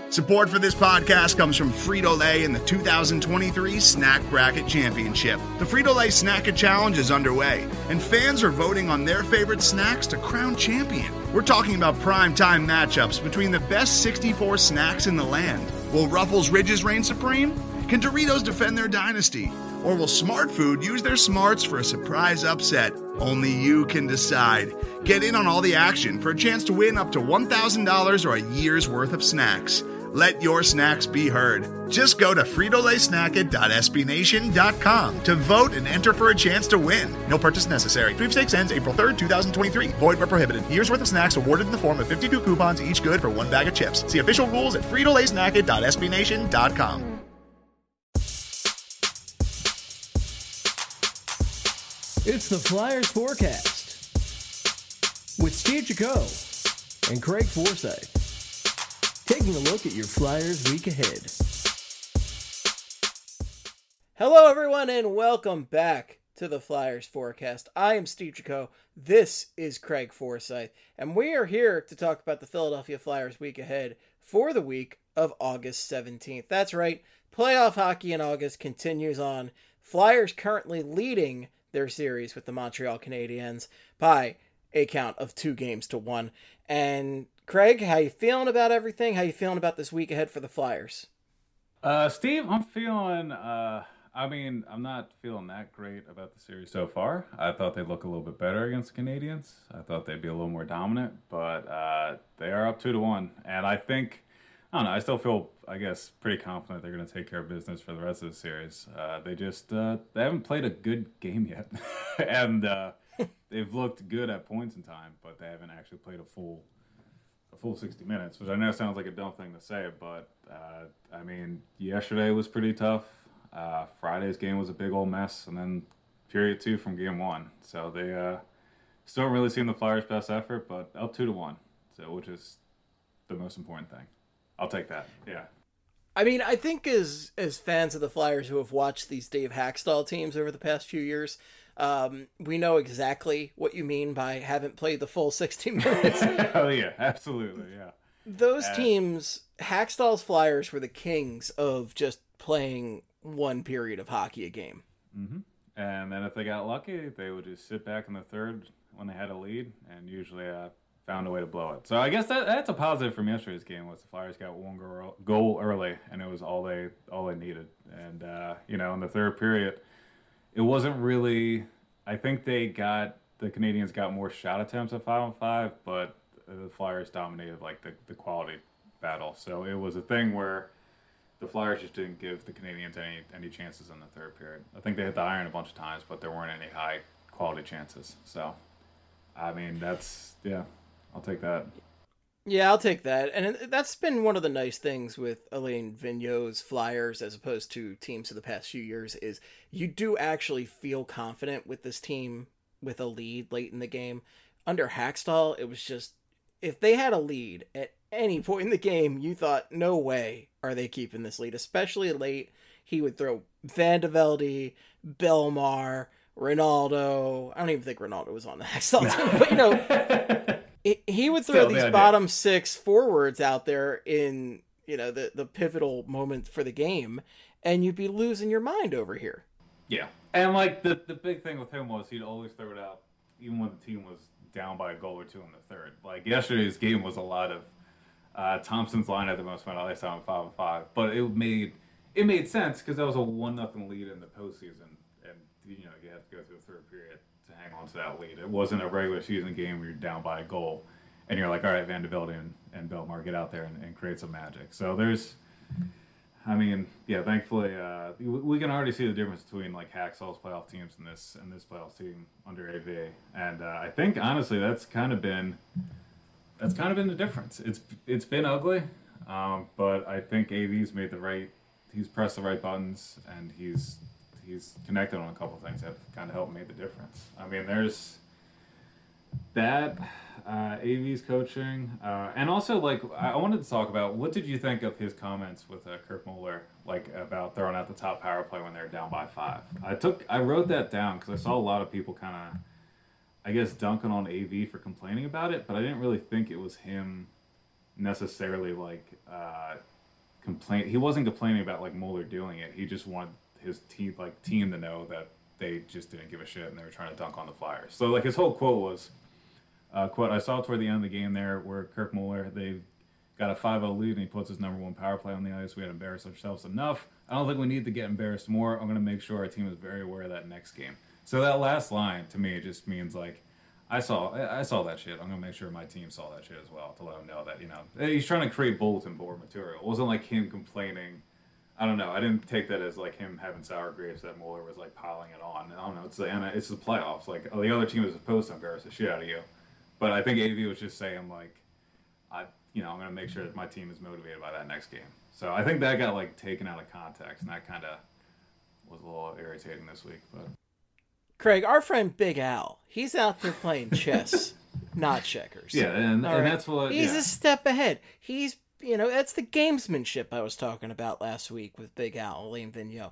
Support for this podcast comes from Frito-Lay and the 2023 Snack Bracket Championship. The Frito-Lay Snack-It Challenge is underway, and fans are voting on their favorite snacks to crown champion. We're talking about prime-time matchups between the best 64 snacks in the land. Will Ruffles Ridges reign supreme? Can Doritos defend their dynasty? Or will Smart Food use their smarts for a surprise upset? Only you can decide. Get in on all the action for a chance to win up to $1,000 or a year's worth of snacks. Let your snacks be heard. Just go to fritolaysnacket.sbnation.com to vote and enter for a chance to win. No purchase necessary. Sweepstakes ends April 3rd, 2023. Void where prohibited. Year's worth of snacks awarded in the form of 52 coupons, each good for one bag of chips. See official rules at fritolaysnacket.sbnation.com. It's the Flyers Forecast with Steve Jaco and Craig Forsyth. Taking a look at your Flyers week ahead. Hello, everyone, and welcome back to the Flyers Forecast. I am Steve Jaco. This is Craig Forsyth, and we are here to talk about the Philadelphia Flyers week ahead for the week of August 17th. That's right, playoff hockey in August continues on. Flyers currently leading their series with the Montreal Canadiens by a count of 2-1. And Craig, how you feeling about everything? How you feeling about this week ahead for the Flyers? Steve, I'm feeling, I'm not feeling that great about the series so far. I thought they'd look a little bit better against the Canadiens. I thought they'd be a little more dominant, but they are up 2-1. And I think, I don't know, I still feel, pretty confident they're going to take care of business for the rest of the series. They haven't played a good game yet. And they've looked good at points in time, but they haven't actually played a full 60 minutes, which I know sounds like a dumb thing to say, but yesterday was pretty tough. Friday's game was a big old mess, and then period 2 from game 1. So they still don't really seem the Flyers' best effort, but up 2-1, so which is the most important thing. I'll take that. Yeah. I think as fans of the Flyers who have watched these Dave Hackstall teams over the past few years, we know exactly what you mean by haven't played the full 60 minutes. Oh, yeah, absolutely, yeah. Those teams, Hackstall's Flyers were the kings of just playing one period of hockey a game. Mm-hmm. And then if they got lucky, they would just sit back in the third when they had a lead and usually found a way to blow it. So I guess that's a positive from yesterday's game was the Flyers got one goal early, and it was all they needed. And, in the third period, it wasn't really – I think the Canadiens got more shot attempts at 5-on-5, but the Flyers dominated, the quality battle. So it was a thing where the Flyers just didn't give the Canadiens any chances in the third period. I think they hit the iron a bunch of times, but there weren't any high-quality chances. So, I'll take that. Yeah, I'll take that. And that's been one of the nice things with Alain Vigneault's Flyers as opposed to teams of the past few years is you do actually feel confident with this team with a lead late in the game. Under Hackstall, it was just, if they had a lead at any point in the game, you thought, no way are they keeping this lead, especially late. He would throw Van de Velde, Belmar, Ronaldo. I don't even think Ronaldo was on the Hackstall team, but he would throw these bottom six forwards out there in, the pivotal moment for the game, and you'd be losing your mind over here. Yeah. And, the big thing with him was he'd always throw it out, even when the team was down by a goal or two in the third. Yesterday's game was a lot of Thompson's line at the most amount of ice time 5-on-5, but it made sense because that was a 1-0 lead in the postseason, and, you had to go through the third period to hang on to that lead. It wasn't a regular season game where you're down by a goal and you're like, all right, Van de Velde and Belmar, get out there and create some magic. So thankfully we can already see the difference between Hackstall's playoff teams and this playoff team under AV. And I think honestly that's kind of been the difference. It's been ugly, but I think AV's he's pressed the right buttons and he's connected on a couple of things that kind of helped make the difference. There's that AV's coaching, and also I wanted to talk about what did you think of his comments with Kirk Muller, about throwing out the top power play when they're down by 5. I wrote that down because I saw a lot of people kind of, dunking on AV for complaining about it, but I didn't really think it was him necessarily He wasn't complaining about like Mueller doing it. He just wanted his team to know that they just didn't give a shit and they were trying to dunk on the Flyers. So like his whole quote was, quote, I saw toward the end of the game there where Kirk Mueller, they got a 5-0 lead and he puts his number one power play on the ice. We had embarrassed ourselves enough. I don't think we need to get embarrassed more. I'm going to make sure our team is very aware of that next game. So that last line to me just means like, I saw that shit. I'm going to make sure my team saw that shit as well to let them know that, you know, he's trying to create bulletin board material. It wasn't like him complaining. I don't know. I didn't take that as like him having sour grapes that Mueller was like piling it on. I don't know. It's the playoffs. Like the other team is supposed to embarrass the shit out of you. But I think AV was just saying like, I'm going to make sure that my team is motivated by that next game. So I think that got like taken out of context, and that kind of was a little irritating this week. But Craig, our friend Big Al, he's out there playing chess, not checkers. Yeah, and that's what he's a step ahead. He's that's the gamesmanship I was talking about last week with Big Al, Alain Vigneault.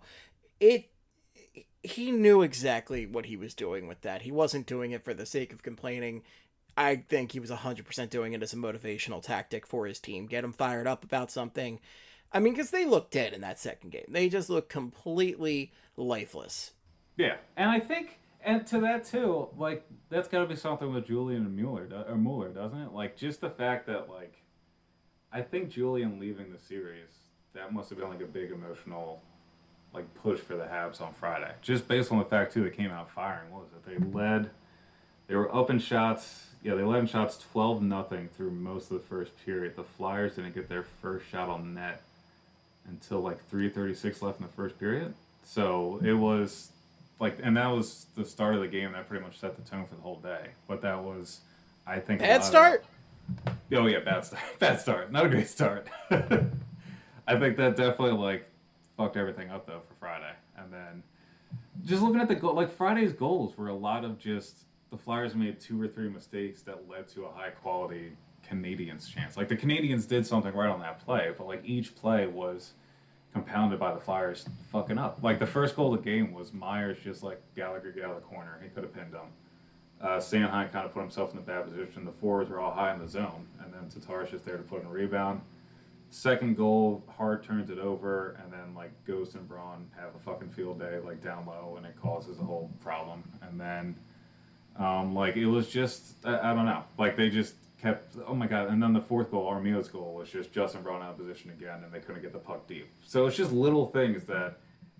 He knew exactly what he was doing with that. He wasn't doing it for the sake of complaining. I think he was 100% doing it as a motivational tactic for his team. Get them fired up about something. I mean, because they looked dead in that second game. They just looked completely lifeless. Yeah, and I think, and to that too, like, that's got to be something with Julian and Mueller, doesn't it? Like, just the fact that, like, I think Julian leaving the series, that must have been, like, a big emotional, like, push for the Habs on Friday. Just based on the fact, too, they came out firing. What was it? They were up in shots. Yeah, they led in shots 12-0 through most of the first period. The Flyers didn't get their first shot on net until like 3:36 left in the first period. So it was like, and that was the start of the game. That pretty much set the tone for the whole day. But that was, I think, bad start. Oh yeah, bad start. Bad start. Not a great start. I think that definitely like fucked everything up though for Friday. And then just looking at the goal, like Friday's goals were a lot of just. The Flyers made 2 or 3 mistakes that led to a high-quality Canadiens chance. Like, the Canadiens did something right on that play, but, like, each play was compounded by the Flyers fucking up. Like, the first goal of the game was Myers just, like, Gallagher get out of the corner. He could have pinned him. Sanheim kind of put himself in a bad position. The forwards were all high in the zone, and then Tatar's just there to put in a rebound. Second goal, Hart turns it over, and then, like, Ghost and Braun have a fucking field day, like, down low, and it causes a whole problem. And then... like, it was just, I don't know. Like, they just kept, oh my God. And then the fourth goal, Armilla's goal, was just Justin Braun out of position again, and they couldn't get the puck deep. So it's just little things that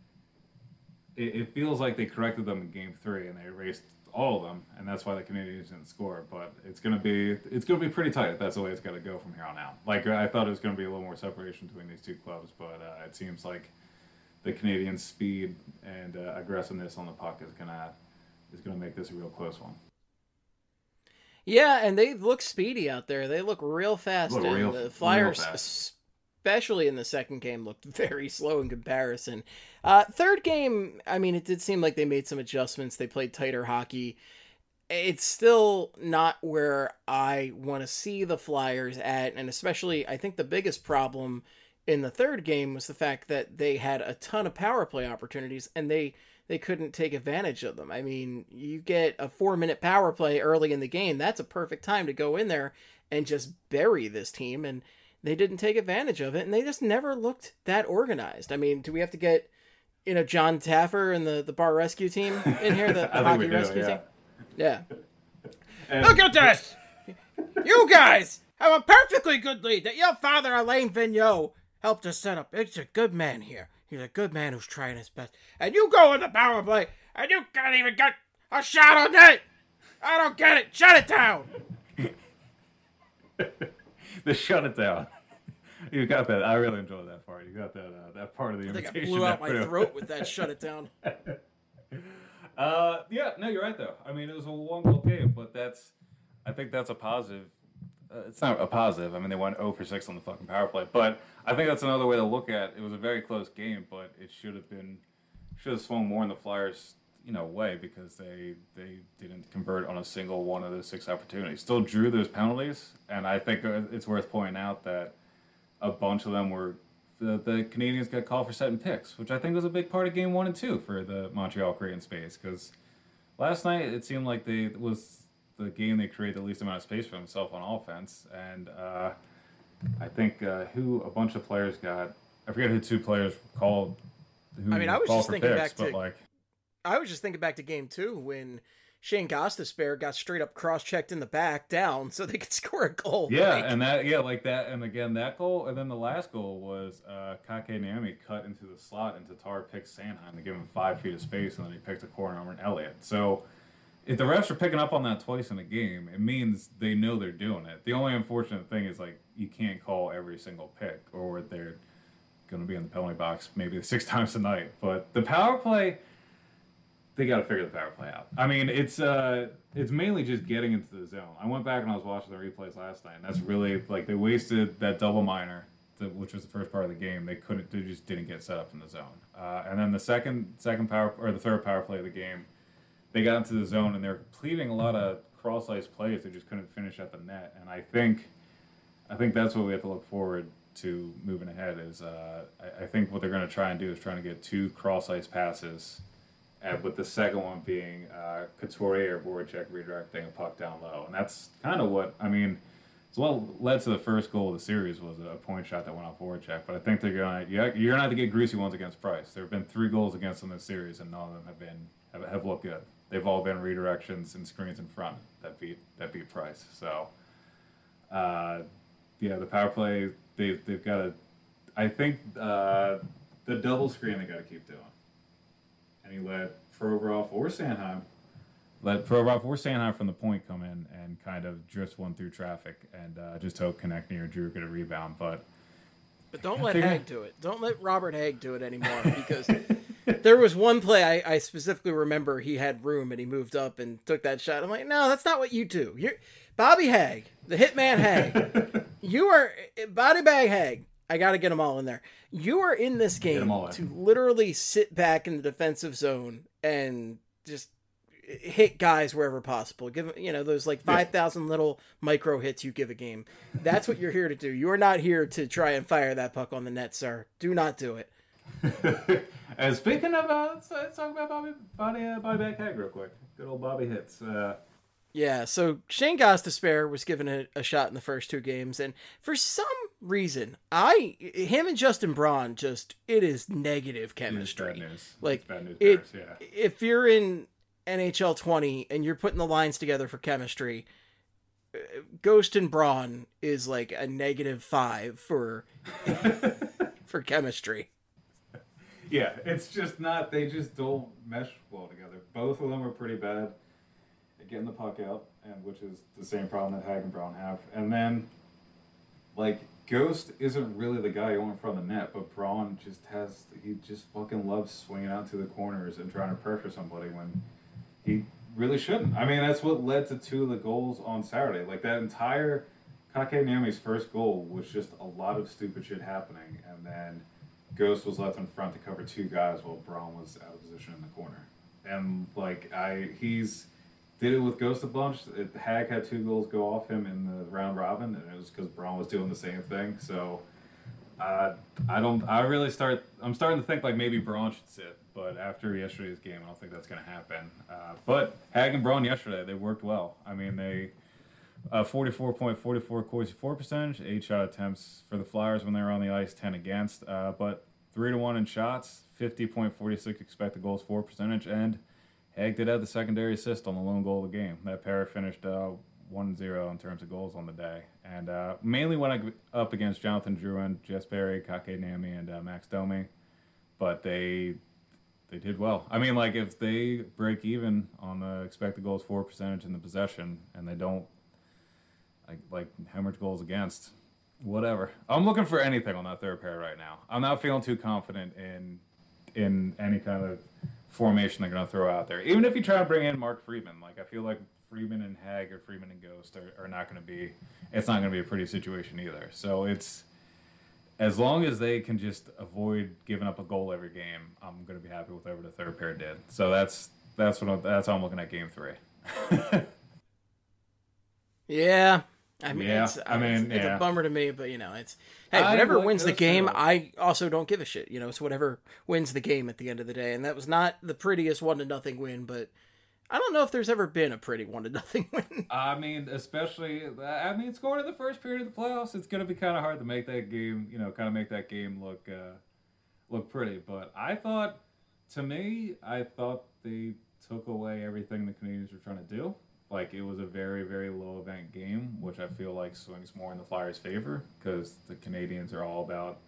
it feels like they corrected them in Game 3, and they erased all of them, and that's why the Canadiens didn't score. But it's gonna be pretty tight if that's the way it's gonna go from here on out. Like, I thought it was gonna be a little more separation between these two clubs, but it seems like the Canadiens' speed and aggressiveness on the puck is gonna make this a real close one. Yeah, and they look speedy out there. They look real fast. The Flyers, especially in the second game, looked very slow in comparison. Third game, I mean, it did seem like they made some adjustments. They played tighter hockey. It's still not where I want to see the Flyers at, and especially, I think the biggest problem in the third game was the fact that they had a ton of power play opportunities, and they couldn't take advantage of them. I mean, you get a 4-minute power play early in the game. That's a perfect time to go in there and just bury this team. And they didn't take advantage of it. And they just never looked that organized. I mean, do we have to get, John Taffer and the bar rescue team in here? The hockey rescue team? Yeah. Look at this! You guys have a perfectly good lead that your father, Alain Vigneault, helped us set up. It's a good man here. He's a good man who's trying his best. And you go in the power play, and you can't even get a shot on net. I don't get it. Shut it down. The shut it down. You got that. I really enjoyed that part. You got that part of the invitation. I think I blew out my throat with that shut it down. Yeah, no, you're right, though. I mean, it was a one-goal game, but I think that's a positive. It's not a positive. I mean, they went 0 for 6 on the fucking power play. But I think that's another way to look at it. It was a very close game, but it should have swung more in the Flyers, way because they didn't convert on a single one of those 6 opportunities. Still drew those penalties, and I think it's worth pointing out that a bunch of them were the Canadiens got called for setting picks, which I think was a big part of Game 1 and 2 for the Montreal creating space. Because last night it seemed like it was the game they created the least amount of space for themselves on offense, and I think a bunch of players got I forget who two players called. I mean, I was just thinking picks, back to. I was just thinking back to game 2 when Shane Gostisbehere got straight up cross-checked in the back down so they could score a goal. Yeah, and that, and again, that goal, and then the last goal was Kakeniemi cut into the slot, and Tatar picked Sanheim to give him 5 feet of space, and then he picked a corner over Elliott. So if the refs are picking up on that twice in a game, it means they know they're doing it. The only unfortunate thing is, like, you can't call every single pick, or they're going to be in the penalty box maybe 6 times a night. But the power play, they got to figure the power play out. I mean, it's mainly just getting into the zone. I went back and I was watching the replays last night, and that's really, like, they wasted that double minor, which was the first part of the game. They just didn't get set up in the zone. And then the the third power play of the game, they got into the zone and they're completing a lot of cross-ice plays. They just couldn't finish at the net. And I think that's what we have to look forward to moving ahead. Is I think what they're going to try and do is trying to get 2 cross-ice passes, with the second one being Couturier or Voracek redirecting a puck down low. And that's kind of what, I mean, it's what led to the first goal of the series was a point shot that went off Voracek. But I think you're going to have to get greasy ones against Price. There have been 3 goals against them this series, and none of them have looked good. They've all been redirections and screens in front that beat Price. So, the power play, they've got to, I think the double screen they got to keep doing. And he let Provorov or Sanheim from the point come in and kind of drift one through traffic and just hope Konechny or Drew get a rebound. But don't let Hag do it. Don't let Robert Hag do it anymore, because there was one play I specifically remember he had room and he moved up and took that shot. I'm like, no, that's not what you do. You're Bobby Hag, the hitman Hag. You are body bag Hag. I got to get them all in there. You are in this game to literally sit back in the defensive zone and just hit guys wherever possible. Give those like 5,000 little micro hits you give a game. That's what you're here to do. You are not here to try and fire that puck on the net, sir. Do not do it. And speaking of, let's talk about Bobby back Hag real quick. Good old Bobby hits. Yeah, so Shane Gostisbehere was given a shot in the first 2 games, and for some reason, him and Justin Braun it is negative chemistry. It's bad news. Like, it's bad news if you're in NHL 20 and you're putting the lines together for chemistry, Ghost and Braun is like a -5 for chemistry. Yeah, it's just not, they just don't mesh well together. Both of them are pretty bad at getting the puck out, and which is the same problem that Hag and Braun have. And then, like, Ghost isn't really the guy you want in front of the net, but Braun he just fucking loves swinging out to the corners and trying to pressure somebody when he really shouldn't. I mean, that's what led to 2 of the goals on Saturday. Like, that entire Kakeniemi's first goal was just a lot of stupid shit happening, and then Ghost was left in front to cover 2 guys while Braun was out of position in the corner. And, like, he's did it with Ghost a bunch. Hag had 2 goals go off him in the round robin, and it was because Braun was doing the same thing. So, I'm starting to think like maybe Braun should sit, but after yesterday's game, I don't think that's going to happen. But Hag and Braun yesterday, they worked well. I mean, they 44.44 Corsi for percentage, 8 shot attempts for the Flyers when they were on the ice, 10 against, but 3-1 in shots, 50.46 expected goals for percentage, and Hag did have the secondary assist on the lone goal of the game. That pair finished 1-0 in terms of goals on the day. And mainly went up against Jonathan Drouin, Jess Berry, Kakeniemi, and Max Domi. But they did well. I mean, like, if they break even on the expected goals for percentage in the possession and they don't like hemorrhage goals against, whatever. I'm looking for anything on that third pair right now. I'm not feeling too confident in any kind of formation they're going to throw out there. Even if you try to bring in Mark Friedman, like, I feel like Friedman and Hag or Friedman and Ghost are not going to be, it's not going to be a pretty situation either. So it's, as long as they can just avoid giving up a goal every game, I'm going to be happy with whatever the third pair did. So that's how I'm looking at game 3. Yeah. I mean, it's a bummer to me, but it's whatever wins the game. I also don't give a shit. It's whatever wins the game at the end of the day, and that was not the prettiest 1-0 win, but I don't know if there's ever been a pretty 1-0 win. I mean, especially, scoring in the first period of the playoffs, it's going to be kind of hard to make that game, make that game look pretty. But I thought they took away everything the Canadians were trying to do. Like, it was a very, very low event game, which I feel like swings more in the Flyers' favor because the Canadians are all about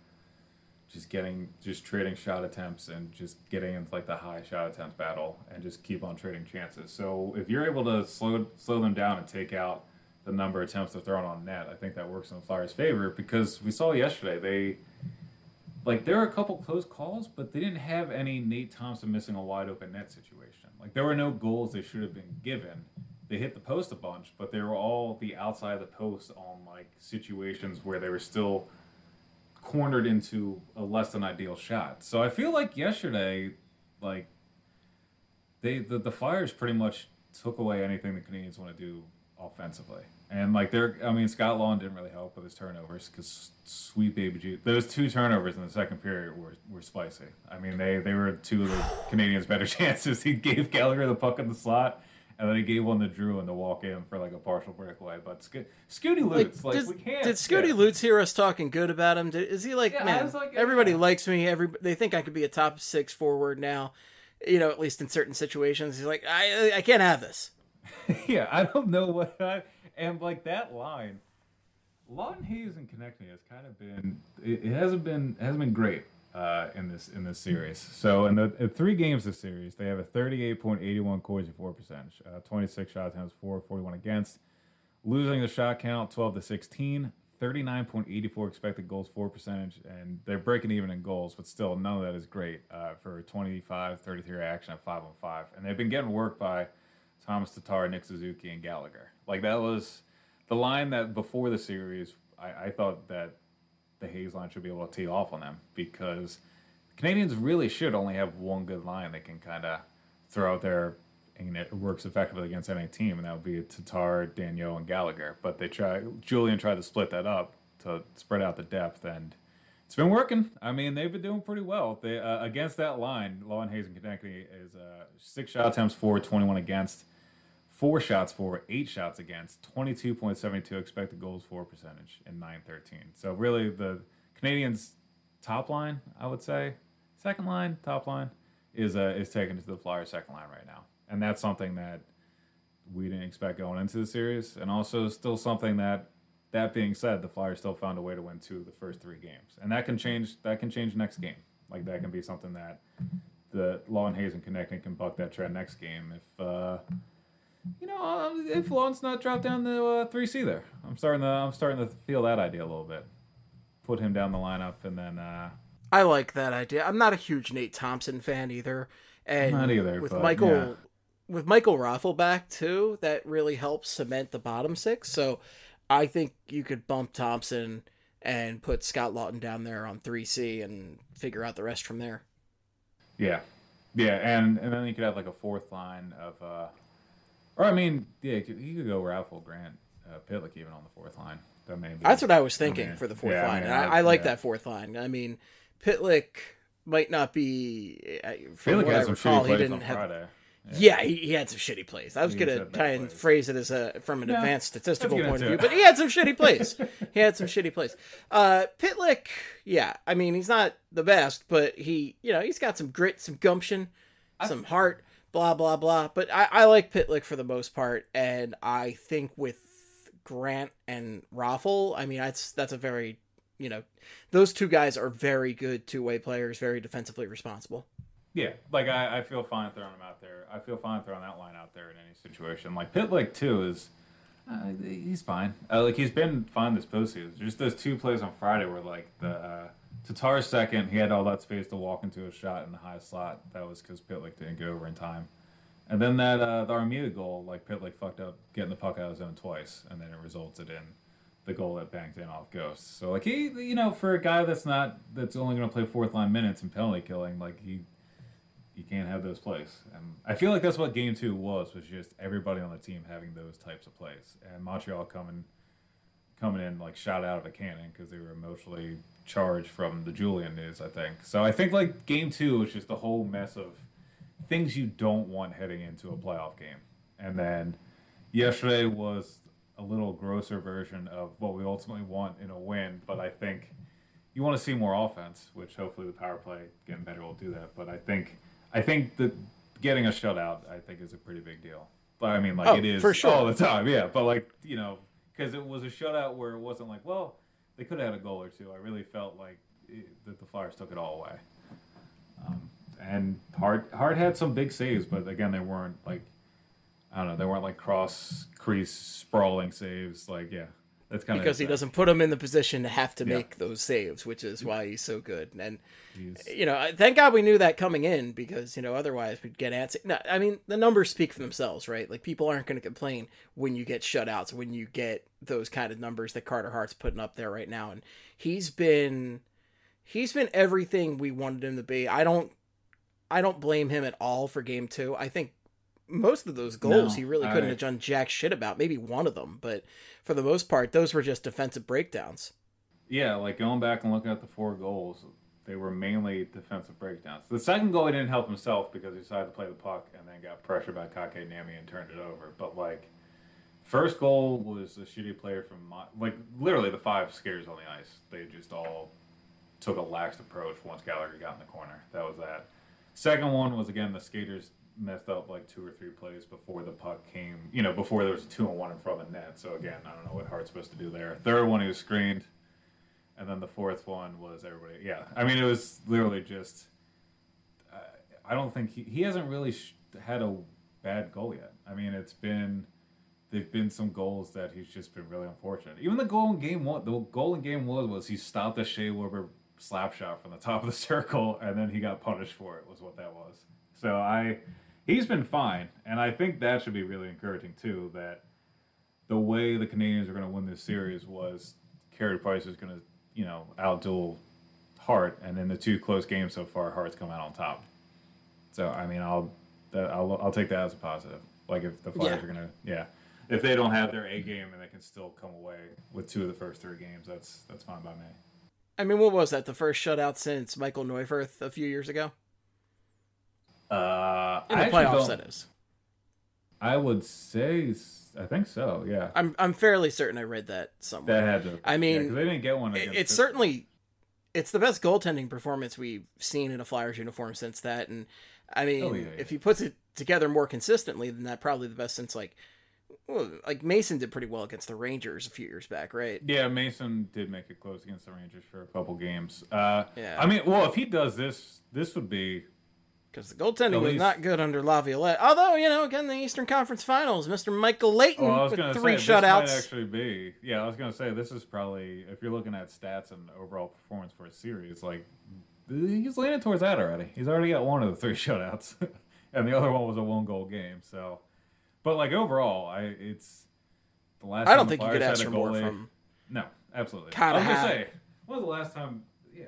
just trading shot attempts and just getting into like the high shot attempts battle and just keep on trading chances. So if you're able to slow them down and take out the number of attempts they're throwing on net, I think that works in the Flyers' favor because we saw yesterday there were a couple close calls, but they didn't have any Nate Thompson missing a wide open net situation. Like, there were no goals they should have been given. They hit the post a bunch, but they were all the outside of the post on like situations where they were still cornered into a less than ideal shot. So I feel like yesterday, like the Flyers pretty much took away anything the Canadians want to do offensively. And like Scott Laughton didn't really help with his turnovers because sweet baby G, those 2 turnovers in the second period were spicy. I mean, they were 2 of the Canadians' better chances. He gave Gallagher the puck in the slot, and then he gave one to Drew in the walk-in for like a partial breakaway. But Scooty Lutz, we can't. Did Scooty Lutz hear us talking good about him? Is he like, man, everybody likes me. They think I could be a top 6 forward now, at least in certain situations. He's like, I can't have this. Yeah, I don't know what and like that line, Laughton, Hayes, and Konechny has kind of been. It hasn't been great in this series. So in the 3 games this series, they have a 38.81 Corsi for percentage, 26 shot attempts for, 41 against, losing the shot count 12-16, 39.84 expected goals for percentage, and they're breaking even in goals, but still none of that is great for 25-33 action at 5-on-5, and they've been getting worked by Thomas Tatar, Nick Suzuki, and Gallagher. Like, that was the line that before the series, I thought that the Hayes line should be able to tee off on them because the Canadians really should only have one good line they can kind of throw out there and it works effectively against any team, and that would be Tatar, Daniel, and Gallagher. But Julian tried to split that up to spread out the depth, and it's been working. I mean, they've been doing pretty well. They against that line, Laughton, Hayes, and Konechny is 6 shot attempts for, 21 against, 4 shots for, 8 shots against, 22.72 expected goals for percentage, and 9.13. So really, the Canadians' top line, I would say, second line, top line, is taken to the Flyers' second line right now, and that's something that we didn't expect going into the series, and also still something that. That being said, the Flyers still found a way to win 2 of the first 3 games, and that can change. That can change next game. Like, that can be something that the Laughton, Hayes, and Konechny can buck that trend next game if Laughton's not dropped down to 3C there. I'm starting to feel that idea a little bit. Put him down the lineup, and then I like that idea. I'm not a huge Nate Thompson fan either, and not either. With but, Michael, yeah. with Michael Raffl back too, that really helps cement the bottom 6. So I think you could bump Thompson and put Scott Laughton down there on 3C and figure out the rest from there. Yeah, and then you could have like a 4th line of, you could go Raffl, Grant, Pitlick even on the 4th line. That's what I was thinking for the 4th line. I like that 4th line. I mean, Pitlick might not be. From Pitlick what had I some recall, shitty he plays didn't on have. Friday. Yeah, he had some shitty plays. I was going to try and phrase it as from an advanced statistical point of view, but he had some shitty plays. Pitlick, yeah, I mean, he's not the best, but he's got some grit, some gumption, some heart, blah, blah, blah. But I like Pitlick for the most part, and I think with Grant and Raffl, I mean, that's a very, those 2 guys are very good 2-way players, very defensively responsible. Yeah, like I feel fine throwing him out there. I feel fine throwing that line out there in any situation. Like Pitlick too is, he's fine. He's been fine this postseason. Just those 2 plays on Friday were like the Tatar's second. He had all that space to walk into a shot in the high slot. That was because Pitlick didn't go over in time. And then that the Armia goal, like Pitlick fucked up getting the puck out of his zone twice, and then it resulted in the goal that banked in off Ghost. So like he, for a guy that's only going to play 4th line minutes and penalty killing, like you can't have those plays. And I feel like that's what Game 2 was just everybody on the team having those types of plays. And Montreal coming in like shot out of a cannon because they were emotionally charged from the Julian news, I think. So I think like Game 2 was just a whole mess of things you don't want heading into a playoff game. And then yesterday was a little grosser version of what we ultimately want in a win, but I think you want to see more offense, which hopefully the power play getting better will do that. But I think that getting a shutout, I think, is a pretty big deal. But I mean, like, it is for sure. all the time, yeah. But like, because it was a shutout where it wasn't like, well, they could have had a goal or two. I really felt like that the Flyers took it all away. And Hart had some big saves, but again, they weren't like, I don't know, they weren't like cross crease sprawling saves. Like, yeah, that's kind of because he doesn't put him in the position to have to make those saves, which is why he's so good. And thank God we knew that coming in, because otherwise we'd get antsy. No, I mean, the numbers speak for themselves, right? Like, people aren't going to complain when you get shutouts, when you get those kind of numbers that Carter Hart's putting up there right now, and he's been everything we wanted him to be. I don't blame him at all for game 2. I think most of those goals he really couldn't have done jack shit about. Maybe one of them, but for the most part, those were just defensive breakdowns. Yeah, like going back and looking at the 4 goals, they were mainly defensive breakdowns. The second goal, he didn't help himself because he decided to play the puck and then got pressured by Kotkaniemi and turned it over. But like, first goal was a shitty player from literally the 5 skaters on the ice. They just all took a lax approach once Gallagher got in the corner. That was that. Second one was, again, the skaters messed up like 2 or 3 plays before the puck came, before there was a 2-on-1 in front of the net. So again, I don't know what Hart's supposed to do there. Third one, he was screened. And then the fourth one was everybody. Yeah, I mean, it was literally just, I don't think he hasn't really had a bad goal yet. I mean, they've been some goals that he's just been really unfortunate. Even the goal in game 1, was he stopped a Shea Weber slap shot from the top of the circle, and then he got punished for it, was what that was. So he's been fine, and I think that should be really encouraging too, that the way the Canadians are going to win this series was Carey Price is going to, outduel Hart, and in the 2 close games so far, Hart's come out on top. So, I mean, I'll take that as a positive. Like, if the Flyers are going to, if they don't have their A game and they can still come away with 2 of the first 3 games, that's fine by me. I mean, what was that? The first shutout since Michael Neuwirth a few years ago? In the playoffs, that is. I would say, I think so. Yeah, I'm fairly certain I read that somewhere. That had to. I mean, because they didn't get one. It's certainly, it's the best goaltending performance we've seen in a Flyers uniform since that. And I mean, if he puts it together more consistently, then that probably the best since like Mason did pretty well against the Rangers a few years back, right? Yeah, Mason did make it close against the Rangers for a couple games. I mean, well, if he does this would be. Because the goaltending was not good under Laviolette. Although, again, the Eastern Conference Finals, Mr. Michael Leighton with 3 shutouts. This might actually be. Yeah, I was going to say, this is probably, if you're looking at stats and overall performance for a series, like, he's leaning towards that already. He's already got 1 of the 3 shutouts. And the other one was a 1-goal game. So, but, like, overall, it's the last I time don't think the you could Flyers ask had for a more goalie. from. No, absolutely. I was going to say, when was the last time,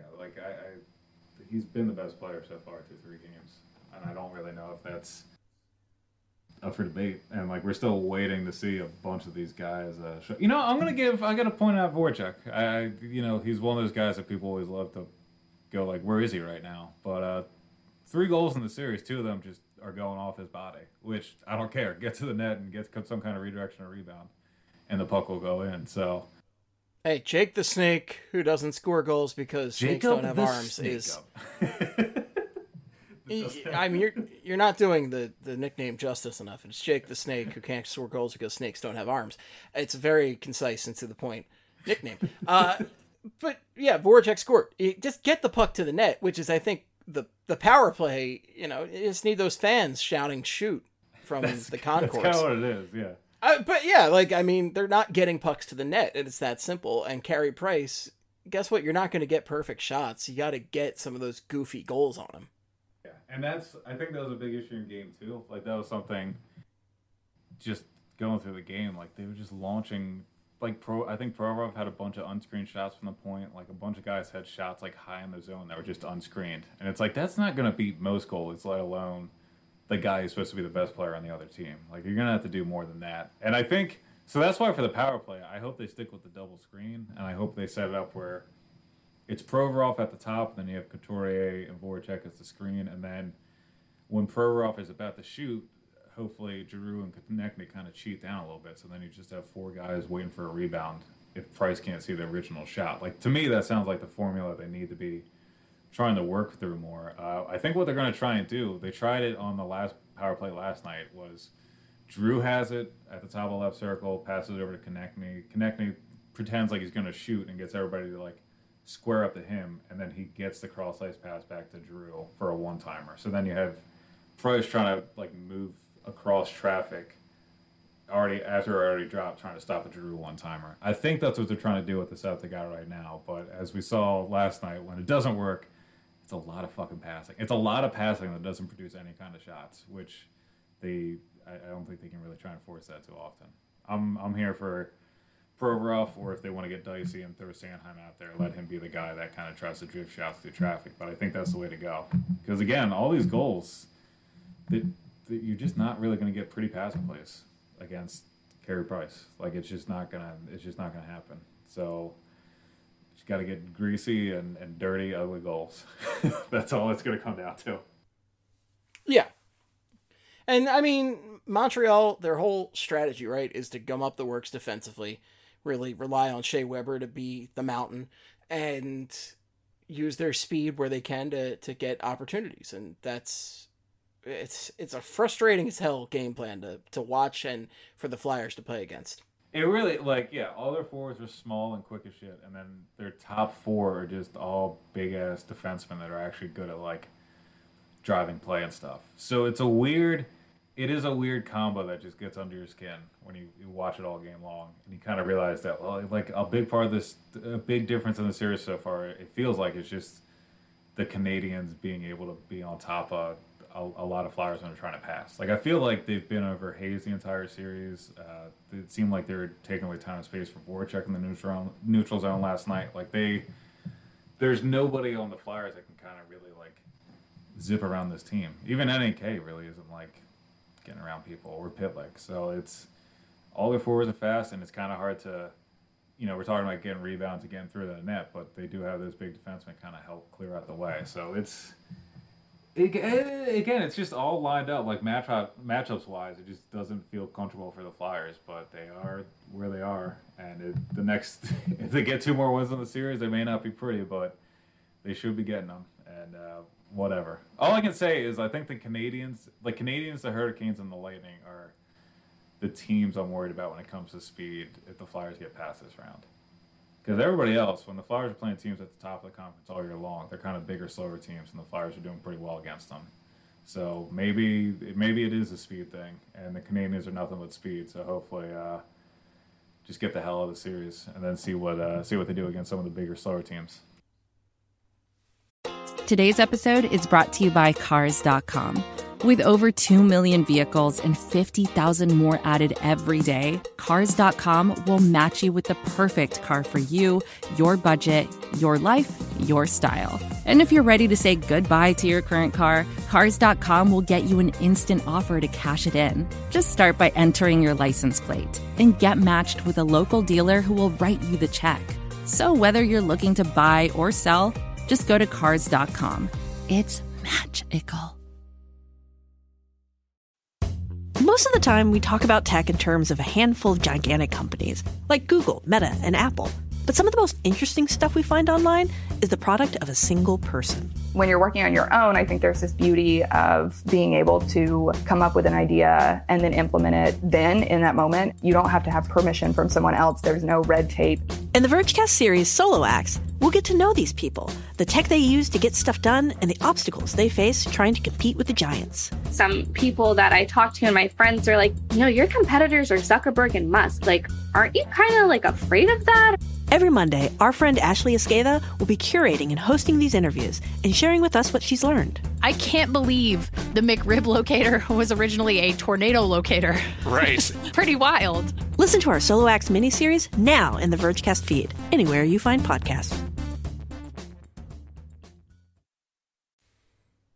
he's been the best player so far through 3 games. And I don't really know if that's up for debate. And, like, we're still waiting to see a bunch of these guys. I got to point out Voracek. He's one of those guys that people always love to go, like, where is he right now? But 3 goals in the series, 2 of them just are going off his body, which I don't care. Get to the net and get some kind of redirection or rebound, and the puck will go in. So, hey, Jake the Snake, who doesn't score goals because snakes don't have arms, is. I mean, you're not doing the nickname justice enough. It's Jake the Snake, who can't score goals because snakes don't have arms. It's a very concise and to the point nickname. But yeah, Voracek scored. Just get the puck to the net, which is, I think, the power play. You just need those fans shouting "shoot" from the concourse. That's kind of what it is, yeah. But yeah, like, I mean, they're not getting pucks to the net, and it's that simple. And Carey Price, guess what? You're not going to get perfect shots. You got to get some of those goofy goals on him. Yeah, and I think that was a big issue in game 2. Like, that was something just going through the game. Like, they were just launching, like, I think Provorov had a bunch of unscreened shots from the point. Like, a bunch of guys had shots, like, high in the zone that were just unscreened. And it's like, that's not going to beat most goalies, let alone the guy who's supposed to be the best player on the other team. Like, you're going to have to do more than that. And I think, so that's why for the power play, I hope they stick with the double screen, and I hope they set it up where it's Provorov at the top, and then you have Couturier and Voracek as the screen, and then when Provorov is about to shoot, hopefully Giroux and Konechny kind of cheat down a little bit, so then you just have 4 guys waiting for a rebound if Price can't see the original shot. Like, to me, that sounds like the formula they need to be trying to work through more. I think what they're going to try and do, they tried it on the last power play last night, was Giroux has it at the top of the left circle, passes it over to Konechny. Konechny pretends like he's going to shoot and gets everybody to, like, square up to him, and then he gets the cross-ice pass back to Giroux for a one-timer. So then you have Price trying to, like, move across traffic already dropped, trying to stop a Giroux one-timer. I think that's what they're trying to do with the set they got right now, but as we saw last night, when it doesn't work, it's a lot of fucking passing. It's a lot of passing that doesn't produce any kind of shots, which I don't think they can really try and force that too often. I'm here for Provorov, or if they want to get dicey and throw Sanheim out there, let him be the guy that kind of tries to drift shots through traffic. But I think that's the way to go. Because, again, all these goals, you're just not really going to get pretty passing plays against Carey Price. Like, it's just not gonna happen. So just got to get greasy and dirty, ugly goals. That's all it's going to come down to. Yeah. And, I mean, Montreal, their whole strategy, right, is to gum up the works defensively, really rely on Shea Weber to be the mountain, and use their speed where they can to get opportunities. And it's a frustrating as hell game plan to watch and for the Flyers to play against. It really, all their forwards are small and quick as shit, and then their top 4 are just all big-ass defensemen that are actually good at, like, driving play and stuff. So it is a weird combo that just gets under your skin when you watch it all game long, and you kind of realize that, well, like, a big difference in the series so far, it feels like it's just the Canadians being able to be on top of a lot of Flyers when they're trying to pass. Like, I feel like they've been over Hayes the entire series. It seemed like they were taking away time and space from Voracek in the neutral zone last night. Like, there's nobody on the Flyers that can kind of really, like, zip around this team. Even NAK really isn't, like, getting around people, or Pitlick. So it's all their forwards are fast, and it's kind of hard to, we're talking about getting rebounds and getting through the net, but they do have those big defensemen kind of help clear out the way. So it's just all lined up, like, matchups wise. It just doesn't feel comfortable for the Flyers, but they are where they are, and if they get 2 more wins in the series, they may not be pretty, but they should be getting them. And whatever. All I can say is I think the Canadians, the Hurricanes, and the Lightning are the teams I'm worried about when it comes to speed if the Flyers get past this round. Because everybody else, when the Flyers are playing teams at the top of the conference all year long, they're kind of bigger, slower teams, and the Flyers are doing pretty well against them. So maybe it is a speed thing, and the Canadians are nothing but speed. So hopefully, just get the hell out of the series and then see what they do against some of the bigger, slower teams. Today's episode is brought to you by Cars.com. With over 2 million vehicles and 50,000 more added every day, Cars.com will match you with the perfect car for you, your budget, your life, your style. And if you're ready to say goodbye to your current car, Cars.com will get you an instant offer to cash it in. Just start by entering your license plate and get matched with a local dealer who will write you the check. So whether you're looking to buy or sell, just go to Cars.com. It's magical. Most of the time, we talk about tech in terms of a handful of gigantic companies, like Google, Meta, and Apple. But some of the most interesting stuff we find online is the product of a single person. When you're working on your own, I think there's this beauty of being able to come up with an idea and then implement it then in that moment. You don't have to have permission from someone else. There's no red tape. In the Vergecast series Solo Acts, we'll get to know these people, the tech they use to get stuff done, and the obstacles they face trying to compete with the giants. Some people that I talk to and my friends are like, your competitors are Zuckerberg and Musk. Like, aren't you kind of like afraid of that? Every Monday, our friend Ashley Esqueda will be curating and hosting these interviews and sharing with us what she's learned. I can't believe the McRib locator was originally a tornado locator. Right. Pretty wild. Listen to our Solo Acts miniseries now in the Vergecast feed, anywhere you find podcasts.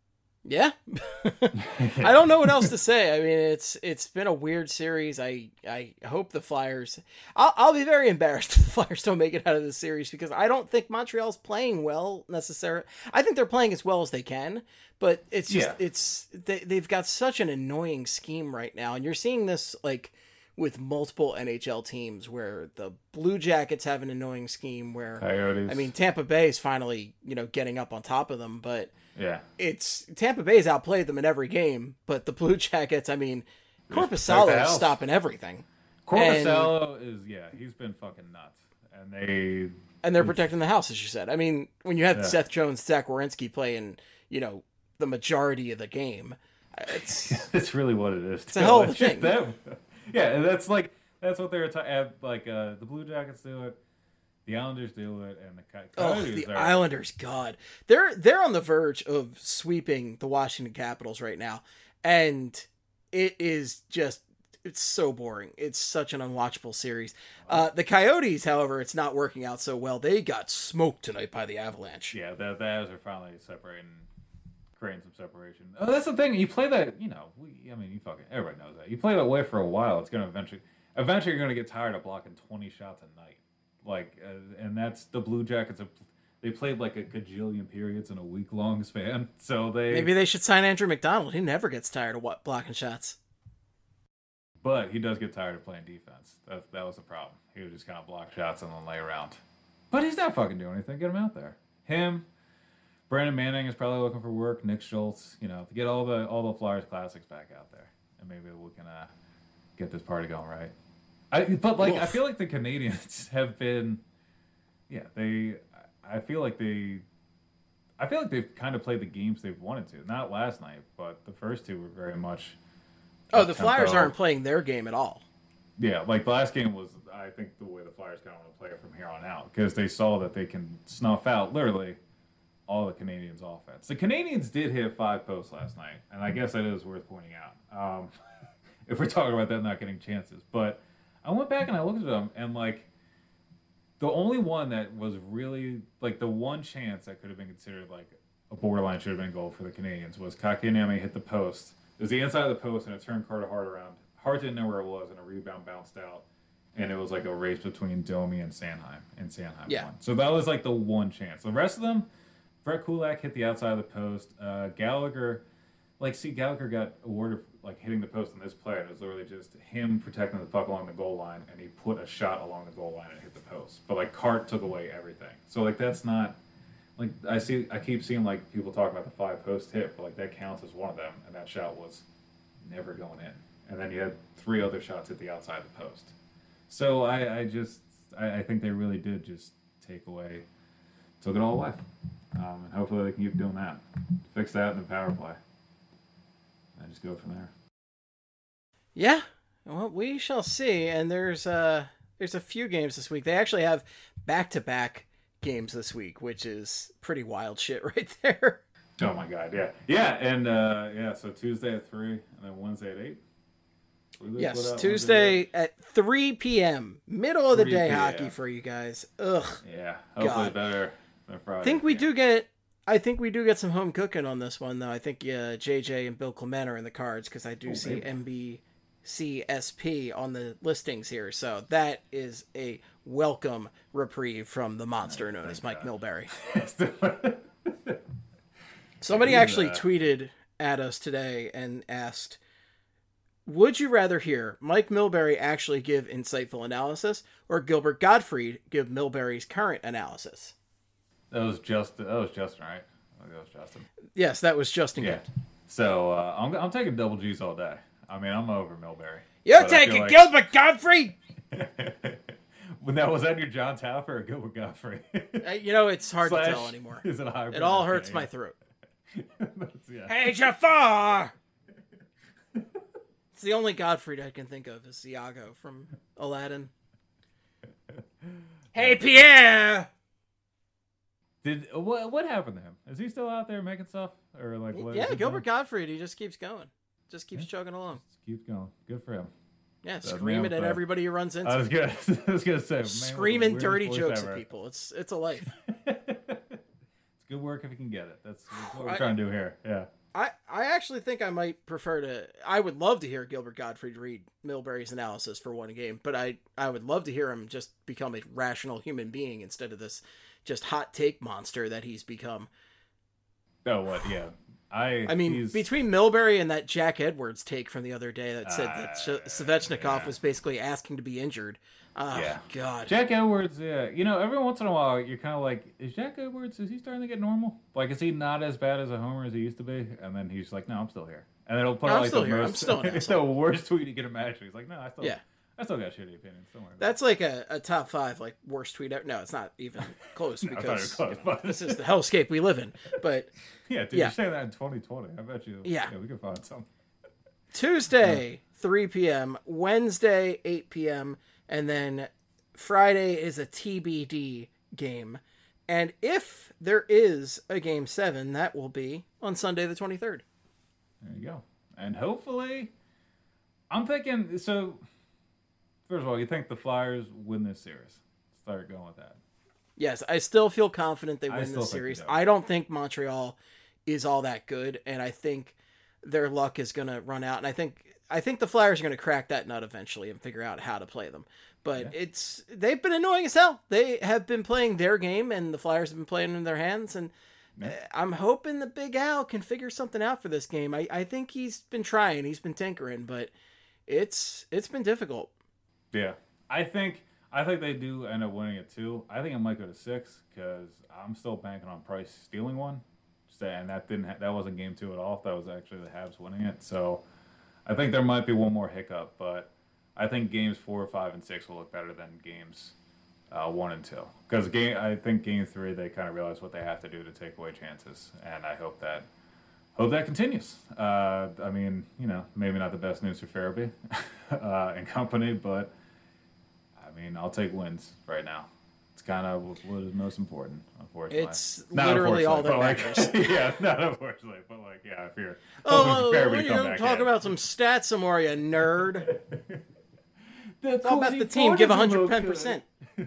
Yeah. I don't know what else to say. I mean, it's been a weird series. I hope the Flyers... I'll be very embarrassed if the Flyers don't make it out of this series, because I don't think Montreal's playing well necessarily. I think they're playing as well as they can, but it's just they've got such an annoying scheme right now, and you're seeing this like with multiple NHL teams, where the Blue Jackets have an annoying scheme where Coyotes. I mean, Tampa Bay is finally, getting up on top of them, but yeah, it's Tampa Bay's outplayed them in every game, but the Blue Jackets, I mean, Korpisalo is stopping everything. Korpisalo he's been fucking nuts, and they're protecting the house, as you said. I mean, when you have Seth Jones, Zach Werenski playing, the majority of the game, it's really what it is. It's a hell of a thing. Yeah, that's what they're the Blue Jackets do it, the Islanders do it, and the Coyotes. Islanders, God, they're on the verge of sweeping the Washington Capitals right now, and it is just it's so boring. It's such an unwatchable series. The Coyotes, however, it's not working out so well. They got smoked tonight by the Avalanche. Yeah, the Avs are finally separating. Creating some separation. Oh, that's the thing. You play that, everybody knows that. You play that way for a while. It's gonna eventually you're gonna get tired of blocking 20 shots a night. And that's the Blue Jackets. They played like a gajillion periods in a week-long span. So maybe they should sign Andrew McDonald. He never gets tired of blocking shots. But he does get tired of playing defense. That was the problem. He would just kind of block shots and then lay around. But he's not fucking doing anything. Get him out there. Him. Brandon Manning is probably looking for work. Nick Schultz, to get all the Flyers classics back out there, and maybe we can get this party going right. I feel like the Canadians have been, I feel like they've kind of played the games they've wanted to. Not last night, but the first two were very much. Oh, the Flyers aren't playing their game at all. Yeah, like the last game was, I think, the way the Flyers kind of want to play it from here on out, because they saw that they can snuff out literally all the Canadians' offense. The Canadians did hit 5 posts last night, and I guess that is worth pointing out. If we're talking about them not getting chances. But I went back and I looked at them, and the only one that was really the one chance that could have been considered a borderline should have been goal for the Canadians was Kotkaniemi hit the post. It was the inside of the post, and it turned Carter Hart around. Hart didn't know where it was, and a rebound bounced out. And it was a race between Domi and Sanheim, won. So that was the one chance. The rest of them, Brett Kulak hit the outside of the post. Gallagher, Gallagher got awarded hitting the post on this play, and it was literally just him protecting the puck along the goal line, and he put a shot along the goal line and hit the post. But Cart took away everything. So that's not I keep seeing people talk about the 5 post hit, but that counts as one of them, and that shot was never going in. And then you had 3 other shots at the outside of the post. So I think they really did just took it all away. And hopefully they can keep doing that. Fix that in the power play. And just go from there. Yeah. Well, we shall see. And there's a few games this week. They actually have back-to-back games this week, which is pretty wild shit right there. Oh my God, yeah. Yeah, and so Tuesday at 3 and then Wednesday at 8. Yes, Tuesday at 3 p.m. Middle of the day hockey for you guys. Ugh. Yeah, hopefully better than Friday. I think we do get some home cooking on this one, though. I think JJ and Bill Clement are in the cards, because I do see NBCSP on the listings here. So that is a welcome reprieve from the monster known as Mike Milbury. Somebody actually tweeted at us today and asked, would you rather hear Mike Milbury actually give insightful analysis, or Gilbert Gottfried give Milbury's current analysis? That was Justin, right? I think that was Justin. Yes, that was Justin. Yeah. So I'm taking double G's all day. I mean, I'm over Milbury. You're taking Gilbert Gottfried. Was that your John Taffer or Gilbert Gottfried? It's hard to tell anymore. Is it a hybrid? It all hurts my throat. Yeah. Hey, Jafar! It's the only Gottfried I can think of is Iago from Aladdin. Hey, Pierre! What happened to him? Is he still out there making stuff, or what? Yeah, Gilbert Gottfried. He just keeps going, just keeps chugging along. Just keeps going. Good for him. Yeah, screaming at everybody he runs into. I was gonna say, man, screaming dirty jokes at people. It's a life. It's good work if you can get it. That's what we're trying to do here. Yeah. I actually think I might prefer to. I would love to hear Gilbert Gottfried read Milbury's analysis for one game, but I would love to hear him just become a rational human being instead of this just hot take monster that he's become. Oh, what? Yeah. I mean, between Milbury and that Jack Edwards take from the other day that said that Svechnikov was basically asking to be injured. Oh, God. Jack Edwards, yeah. You know, every once in a while, you're kind of like, is Jack Edwards, is he starting to get normal? Like, is he not as bad as a homer as he used to be? And then he's like, no, I'm still here. And then he'll put like the worst tweet you can imagine. He's like, no, I still got shitty opinions. Don't worry about That's like a top 5 like worst tweet ever. No, it's not even close because this is the hellscape we live in. But yeah, dude, you're saying that in 2020. I bet you. Yeah, we can find something. Tuesday, 3 p.m. Wednesday, 8 p.m. And then Friday is a TBD game. And if there is a Game 7, that will be on Sunday the 23rd. There you go. And hopefully, I'm thinking, so, first of all, you think the Flyers win this series? Start going with that. Yes, I still feel confident they win this series. I don't think Montreal is all that good, and I think their luck is going to run out. And I think the Flyers are going to crack that nut eventually and figure out how to play them. But they've been annoying as hell. They have been playing their game, and the Flyers have been playing in their hands. And I'm hoping the Big Al can figure something out for this game. I think he's been trying. He's been tinkering, but it's been difficult. Yeah. I think they do end up winning it, too. I think it might go to 6, because I'm still banking on Price stealing one. And that wasn't Game 2 at all. That was actually the Habs winning it. So I think there might be one more hiccup, but I think games 4, 5, and 6 will look better than games 1 and 2. Because I think Game 3 they kind of realize what they have to do to take away chances, and I hope that continues. I mean, you know, maybe not the best news for Farabee and company, but I mean, I'll take wins right now. It's kind of what is most important, unfortunately. It's literally all that matters. Yeah, not unfortunately, but if you're talk about some stats some more, you nerd. It's all about the team. Give 110%.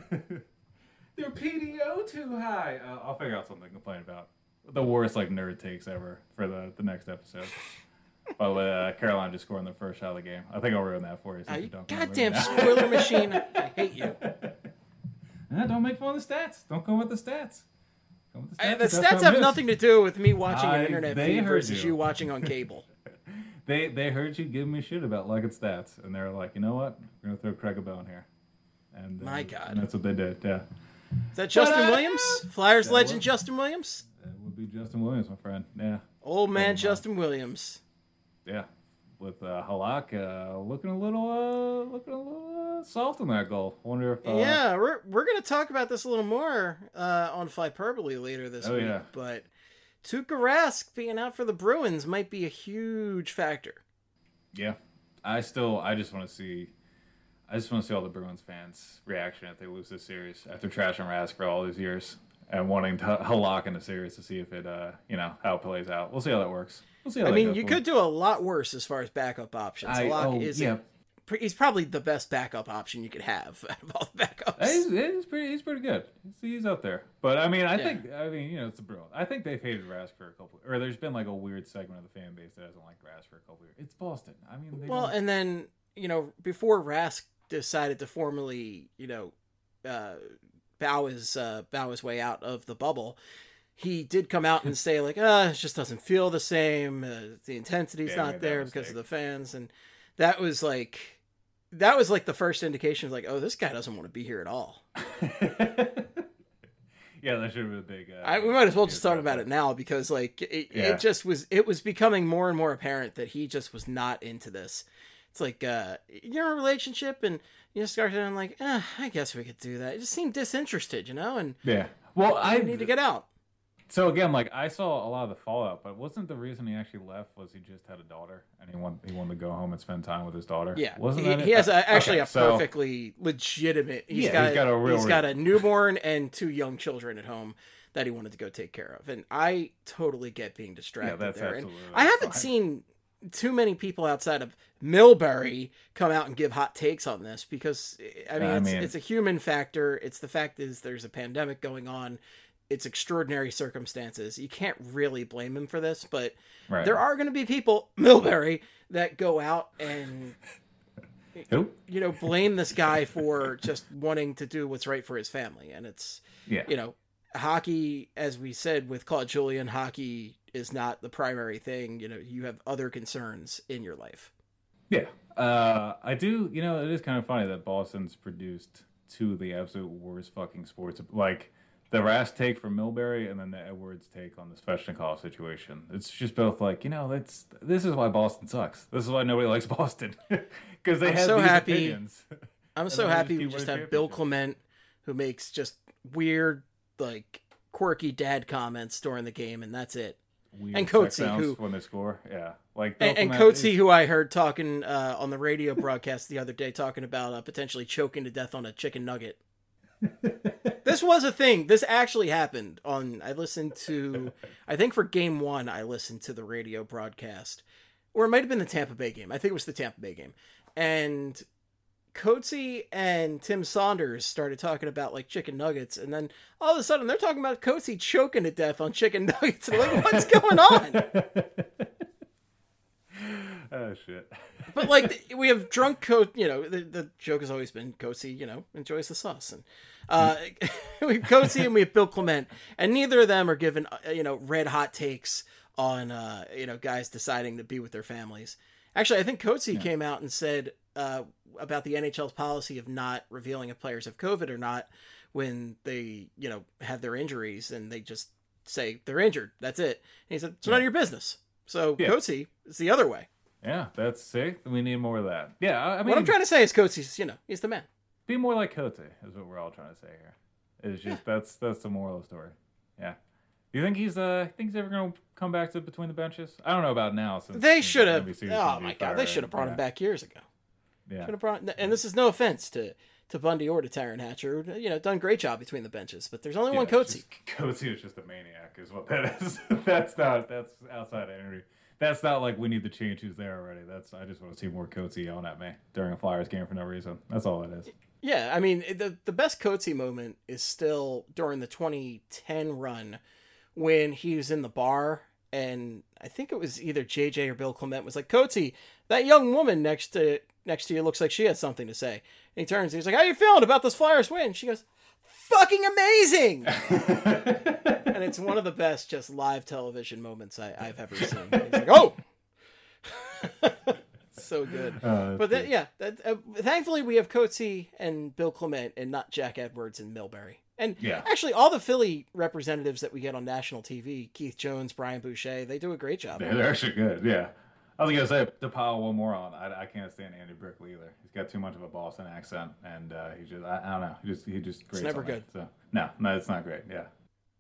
Their PDO too high. I'll figure out something to complain about. The worst nerd takes ever for the next episode. But with Carolina just scoring the first shot of the game, I think I'll ruin that for you. Goddamn spoiler machine! I hate you. Don't make fun of the stats. Don't go with the stats. The stats have nothing to do with me watching an internet feed versus you watching on cable. They heard you give me shit about liking stats, and they're like, you know what? We're gonna throw Craig a bone here. And my God, and that's what they did. Yeah. Is that Justin Williams? Flyers legend Justin Williams? That would be Justin Williams, my friend. Yeah. Old man Justin Williams. Yeah. With Halak looking a little soft in that goal. Wonder if we're gonna talk about this a little more on Flyperbole later this week. Yeah. But Tuukka Rask being out for the Bruins might be a huge factor. Yeah, I just want to see all the Bruins fans' reaction if they lose this series after trashing Rask for all these years and wanting to Halak in the series to see if it how it plays out. We'll see how that works. I mean, you could do a lot worse as far as backup options. He's probably the best backup option you could have out of all the backups. He's pretty good. He's up there. But I mean, I think it's the Bruins. I think they've hated Rask for a couple, or there's been a weird segment of the fan base that hasn't liked Rask for a couple years. It's Boston. I mean, and then before Rask decided to formally bow his way out of the bubble, he did come out and say it just doesn't feel the same. The intensity's not there because of the fans, and that was the first indication of oh, this guy doesn't want to be here at all. Yeah, that should have been a big. We might as well just talk about it now because it was becoming more and more apparent that he just was not into this. It's you're in a relationship and you just start feeling I guess we could do that. It just seemed disinterested, and well, I need to get out. So again, I saw a lot of the fallout, but wasn't the reason he actually left was he just had a daughter and he wanted to go home and spend time with his daughter? Yeah, wasn't he has a perfectly legitimate. He's got a newborn and 2 young children at home that he wanted to go take care of, and I totally get being distracted there. And I haven't seen too many people outside of Milbury come out and give hot takes on this because it's a human factor. It's the fact is there's a pandemic going on. it's extraordinary circumstances. You can't really blame him for this, but Right. there are going to be people, Milbury, that go out and, Who? you know, blame this guy for just wanting to do what's right for his family. And it's, Yeah. you know, hockey, as we said with Claude Julien, hockey is not the primary thing. You know, you have other concerns in your life. Yeah. I do, you know, it is kind of funny that Boston's produced two of the absolute worst fucking sports. Like, the Rask take from Milbury and then the Edwards take on the Svechnikov situation. It's just both like, you know, this is why Boston sucks. This is why nobody likes Boston. Because they have these opinions. I'm so happy we just have Bill Clement, who makes just weird, like, quirky dad comments during the game, and that's it. Weird and sex Coetzee, sounds who when they score, yeah, like Bill and Clement Coetzee, who I heard talking on the radio broadcast the other day, talking about potentially choking to death on a chicken nugget. This was a thing. This actually happened. I listened to, I think for game 1, I listened to the radio broadcast, or it might have been the Tampa Bay game. I think it was the Tampa Bay game, and Coetzee and Tim Saunders started talking about like chicken nuggets, and then all of a sudden they're talking about Coetzee choking to death on chicken nuggets. And like, what's going on? Oh shit! But like we have drunk you know, the joke has always been Coetzee, you know, enjoys the sauce, and we have Coetzee and we have Bill Clement, and neither of them are given you know, red hot takes on you know, guys deciding to be with their families. Actually, I think Coetzee came out and said about the NHL's policy of not revealing if players have COVID or not when they, you know, have their injuries, and they just say they're injured. That's it. And he said, it's none of your business. So Coetzee is the other way. Yeah, that's sick. We need more of that. Yeah, I mean, what I'm trying to say is Coetzee's, you know, he's the man. Be more like Coetzee is what we're all trying to say here. It's just that's the moral of the story. Yeah. Do you think he's ever going to come back to between the benches? I don't know about now. Since they should have. NBC Oh my god, they should have brought him back years ago. Yeah. Should have brought. And this is no offense to Bundy or to Tyron Hatcher, who, you know, done a great job between the benches. But there's only one Coetzee. Coetzee is just a maniac, is what that is. That's outside energy. That's not like we need to change who's there already. I just want to see more Coetzee yelling at me during a Flyers game for no reason. That's all it is. Yeah, I mean, the best Coetzee moment is still during the 2010 run when he was in the bar, and I think it was either JJ or Bill Clement was like, Coetzee, that young woman next to you looks like she has something to say. And he turns, he's like, how you feeling about this Flyers win? She goes, fucking amazing! And it's one of the best just live television moments I've ever seen. He's like, oh! So good. But thankfully we have Coetzee and Bill Clement and not Jack Edwards and Milbury. And actually all the Philly representatives that we get on national TV, Keith Jones, Brian Boucher, they do a great job. Yeah, they're actually good, yeah. I was going to say, to pile one more on, I can't stand Andy Brickley either. He's got too much of a Boston accent, and he just, I don't know, he just grates. It's never good. So, no, it's not great, yeah.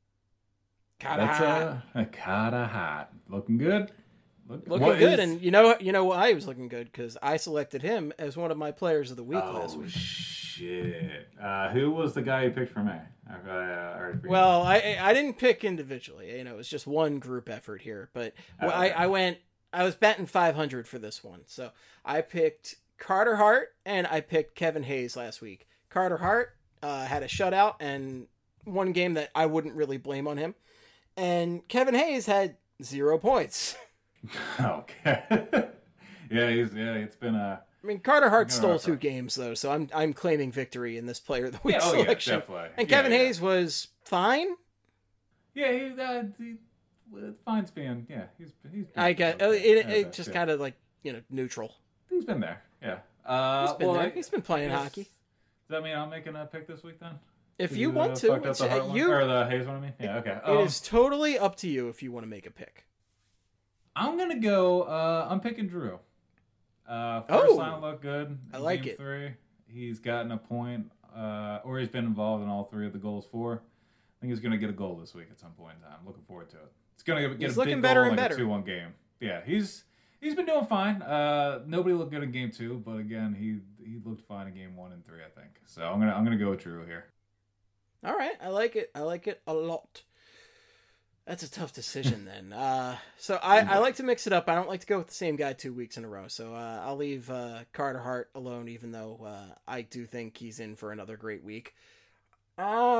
Carter Hart. Looking good. Looking good, and you know why he was looking good? Because I selected him as one of my players of the week last week. Shit. Who was the guy you picked for me? Well, I didn't pick individually. You know, it was just one group effort here. But I was batting 500 for this one. So I picked Carter Hart and I picked Kevin Hayes last week. Carter Hart had a shutout and one game that I wouldn't really blame on him. And Kevin Hayes had 0 points. Okay. It's been a... I mean, Carter Hart stole 2 games, though, so I'm claiming victory in this player of the week selection. Yeah, definitely. And Kevin Hayes was fine. Yeah, fine's being, he's I got it just kind of like, you know, neutral. He's been there, yeah. He's been there. He's been playing hockey. Does that mean I'm making a pick this week then? If you want to, or the Hayes one, I mean? Yeah, okay. It is totally up to you if you want to make a pick. I'm gonna go. I'm picking Drew. First line looked good. I like Game it. 3, he's gotten a point, or he's been involved in all 3 of the goals for. I think he's gonna get a goal this week at some point in time. Looking forward to it. It's gonna get a big goal, like a 2-1 game. Yeah, he's been doing fine. Nobody looked good in Game 2, but again, he looked fine in Game 1 and 3, I think. So I'm gonna go with Drew here. All right, I like it. I like it a lot. That's a tough decision then. So I like to mix it up. I don't like to go with the same guy 2 weeks in a row. So I'll leave Carter Hart alone, even though I do think he's in for another great week.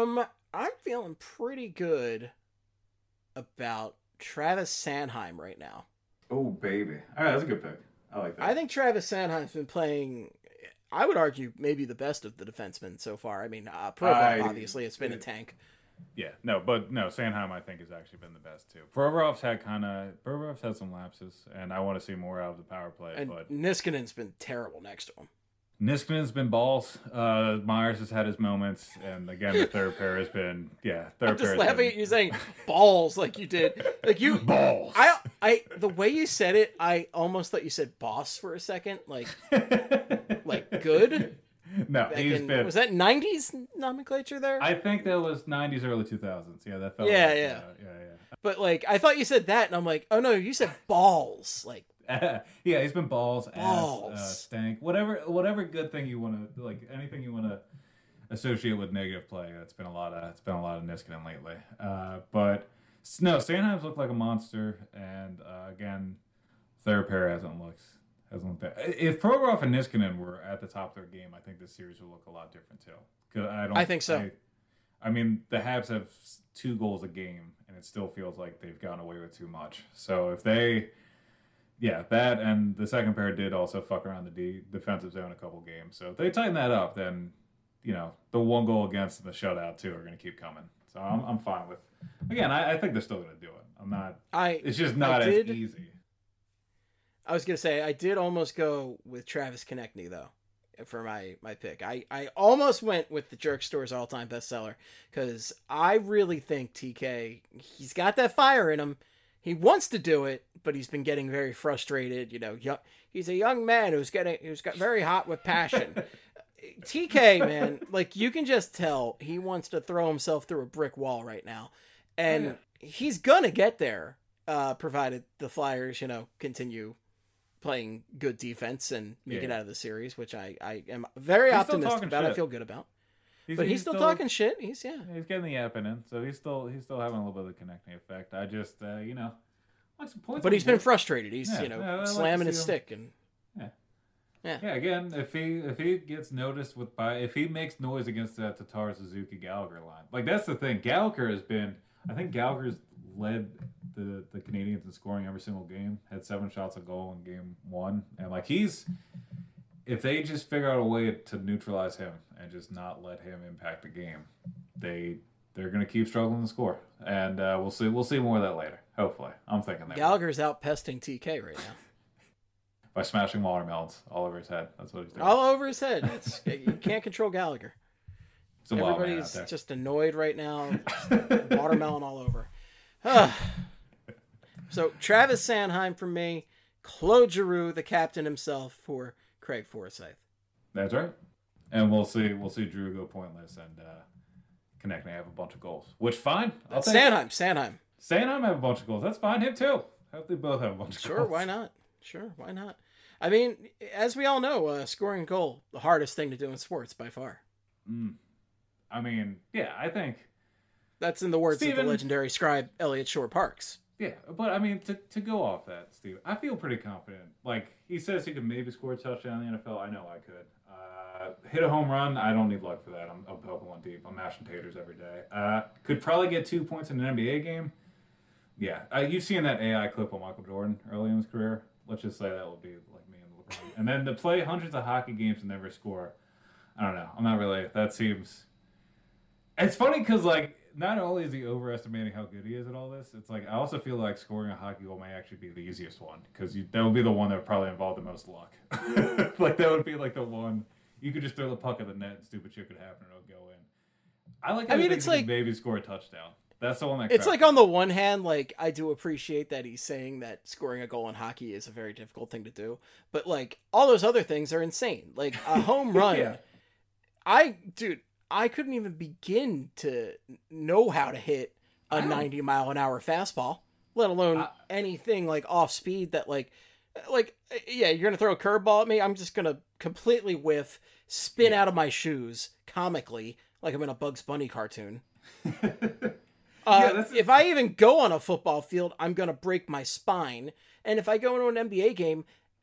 I'm feeling pretty good about Travis Sanheim right now. Oh, baby. All right, that's a good pick. I like that. I think Travis Sanheim's been playing, I would argue, maybe the best of the defensemen so far. I mean, Provorov, obviously, it's been a tank. Yeah, Sanheim, I think, has actually been the best, too. Provorov's had some lapses, and I want to see more out of the power play. And but Niskanen's been terrible next to him. Niskanen's been balls. Myers has had his moments, and again, the third pair has been, I'm just laughing at you saying balls like you did. Like you balls. I the way you said it, I almost thought you said boss for a second. Like good. No, was that 90s nomenclature there? I think that was 90s, early 2000s. Yeah, that felt yeah. But like, I thought you said that, and I'm like, oh no, you said balls. Like, yeah, he's been balls. Ass, stank, whatever good thing you want to like, anything you want to associate with negative play. It's been a lot of Niskanen lately. But no, Sanheim's looked like a monster, and again, third pair hasn't looked bad. If Provorov and Niskanen were at the top of their game, I think this series would look a lot different too. I think so. I mean, the Habs have 2 goals a game, and it still feels like they've gone away with too much. So if they, that and the second pair did also fuck around the defensive zone a couple games. So if they tighten that up, then the 1 goal against and the shutout too are going to keep coming. So I'm fine with. Again, I think they're still going to do it. I'm not. It's just not as easy. I was going to say, I did almost go with Travis Konechny, though, for my pick. I almost went with the Jerk Store's all-time bestseller, because I really think TK, he's got that fire in him. He wants to do it, but he's been getting very frustrated. He's a young man who's got very hot with passion. TK, man, like, you can just tell he wants to throw himself through a brick wall right now. And he's going to get there, provided the Flyers, continue playing good defense and make it out of the series, which I am very optimistic about. Shit. I feel good about. He's still talking shit. He's getting the yapping in, so he's still having a little bit of the connecting effect. I just like some points. But he's been frustrated. He's slamming his stick and again, if he gets noticed if he makes noise against that Tatar, Suzuki, Gallagher line, like that's the thing. Gallagher's led the Canadians in scoring every single game, had 7 shots a goal in game 1, and like if they just figure out a way to neutralize him and just not let him impact the game, they're going to keep struggling to score, and we'll see more of that later. Hopefully, I'm thinking that Gallagher's out pesting TK right now by smashing watermelons all over his head. That's what he's doing. All over his head. You can't control Gallagher. Everybody's just annoyed right now. Watermelon all over. So Travis Sanheim for me, Claude Giroux, the captain himself, for Craig Forsyth. That's right. And we'll see Drew go pointless and Konechny have a bunch of goals. Which fine. Sanheim have a bunch of goals. That's fine. Him too. I hope they both have a bunch of goals. Sure, why not? I mean, as we all know, scoring a goal, the hardest thing to do in sports by far. I mean, I think that's in the words of the legendary scribe Elliot Shore Parks. Yeah, but I mean, to go off that, Steve, I feel pretty confident. Like, he says he could maybe score a touchdown in the NFL. I know I could. Hit a home run, I don't need luck for that. I'm poking one deep. I'm mashing taters every day. Could probably get 2 points in an NBA game. Yeah, you've seen that AI clip of Michael Jordan early in his career. Let's just say that would be like me and LeBron. And then to play hundreds of hockey games and never score, I don't know. I'm not really. That seems. It's funny because, like, not only is he overestimating how good he is at all this, it's like I also feel like scoring a hockey goal may actually be the easiest one, because that would be the one that would probably involve the most luck. Like, that would be like the one you could just throw the puck at the net and stupid shit could happen and it'll go in. I mean, it's like maybe score a touchdown. That's the one that. It's like, on the one hand, like, I do appreciate that he's saying that scoring a goal in hockey is a very difficult thing to do, but like all those other things are insane. Like a home run. I couldn't even begin to know how to hit a 90-mile-an-hour fastball, let alone anything like off speed that you're going to throw a curveball at me. I'm just going to completely whiff, spin out of my shoes comically, like I'm in a Bugs Bunny cartoon. If I even go on a football field, I'm going to break my spine. And if I go into an NBA game,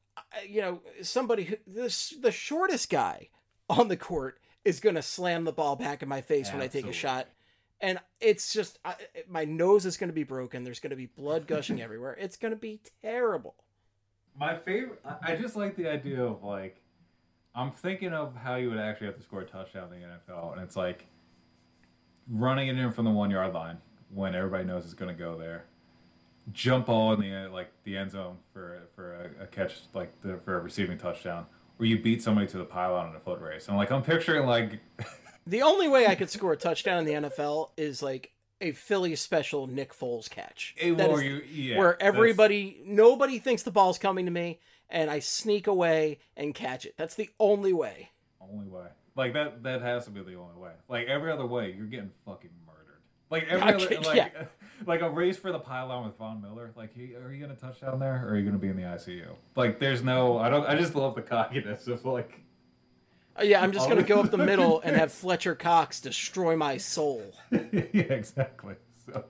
the shortest guy on the court is going to slam the ball back in my face when I take a shot And it's just, my nose is going to be broken. There's going to be blood gushing everywhere. It's going to be terrible. My favorite, I just like the idea of, like, I'm thinking of how you would actually have to score a touchdown in the NFL. And it's like running it in from the 1 yard line when everybody knows it's going to go there. Jump ball in the end zone for a catch, for a receiving touchdown. Or you beat somebody to the pylon in a foot race. And, like, I'm picturing, like... The only way I could score a touchdown in the NFL is like a Philly special Nick Foles catch. Where nobody thinks the ball's coming to me, and I sneak away and catch it. That's the only way. Only way. Like, that has to be the only way. Like, every other way, you're getting fucking murdered. Like, like a race for the pylon with Von Miller. Like, are you going to touch down there, or are you going to be in the ICU? Like, there's no... I just love the cockiness of, like... Yeah, I'm just going to go up the middle and have Fletcher Cox destroy my soul. Yeah, exactly. So,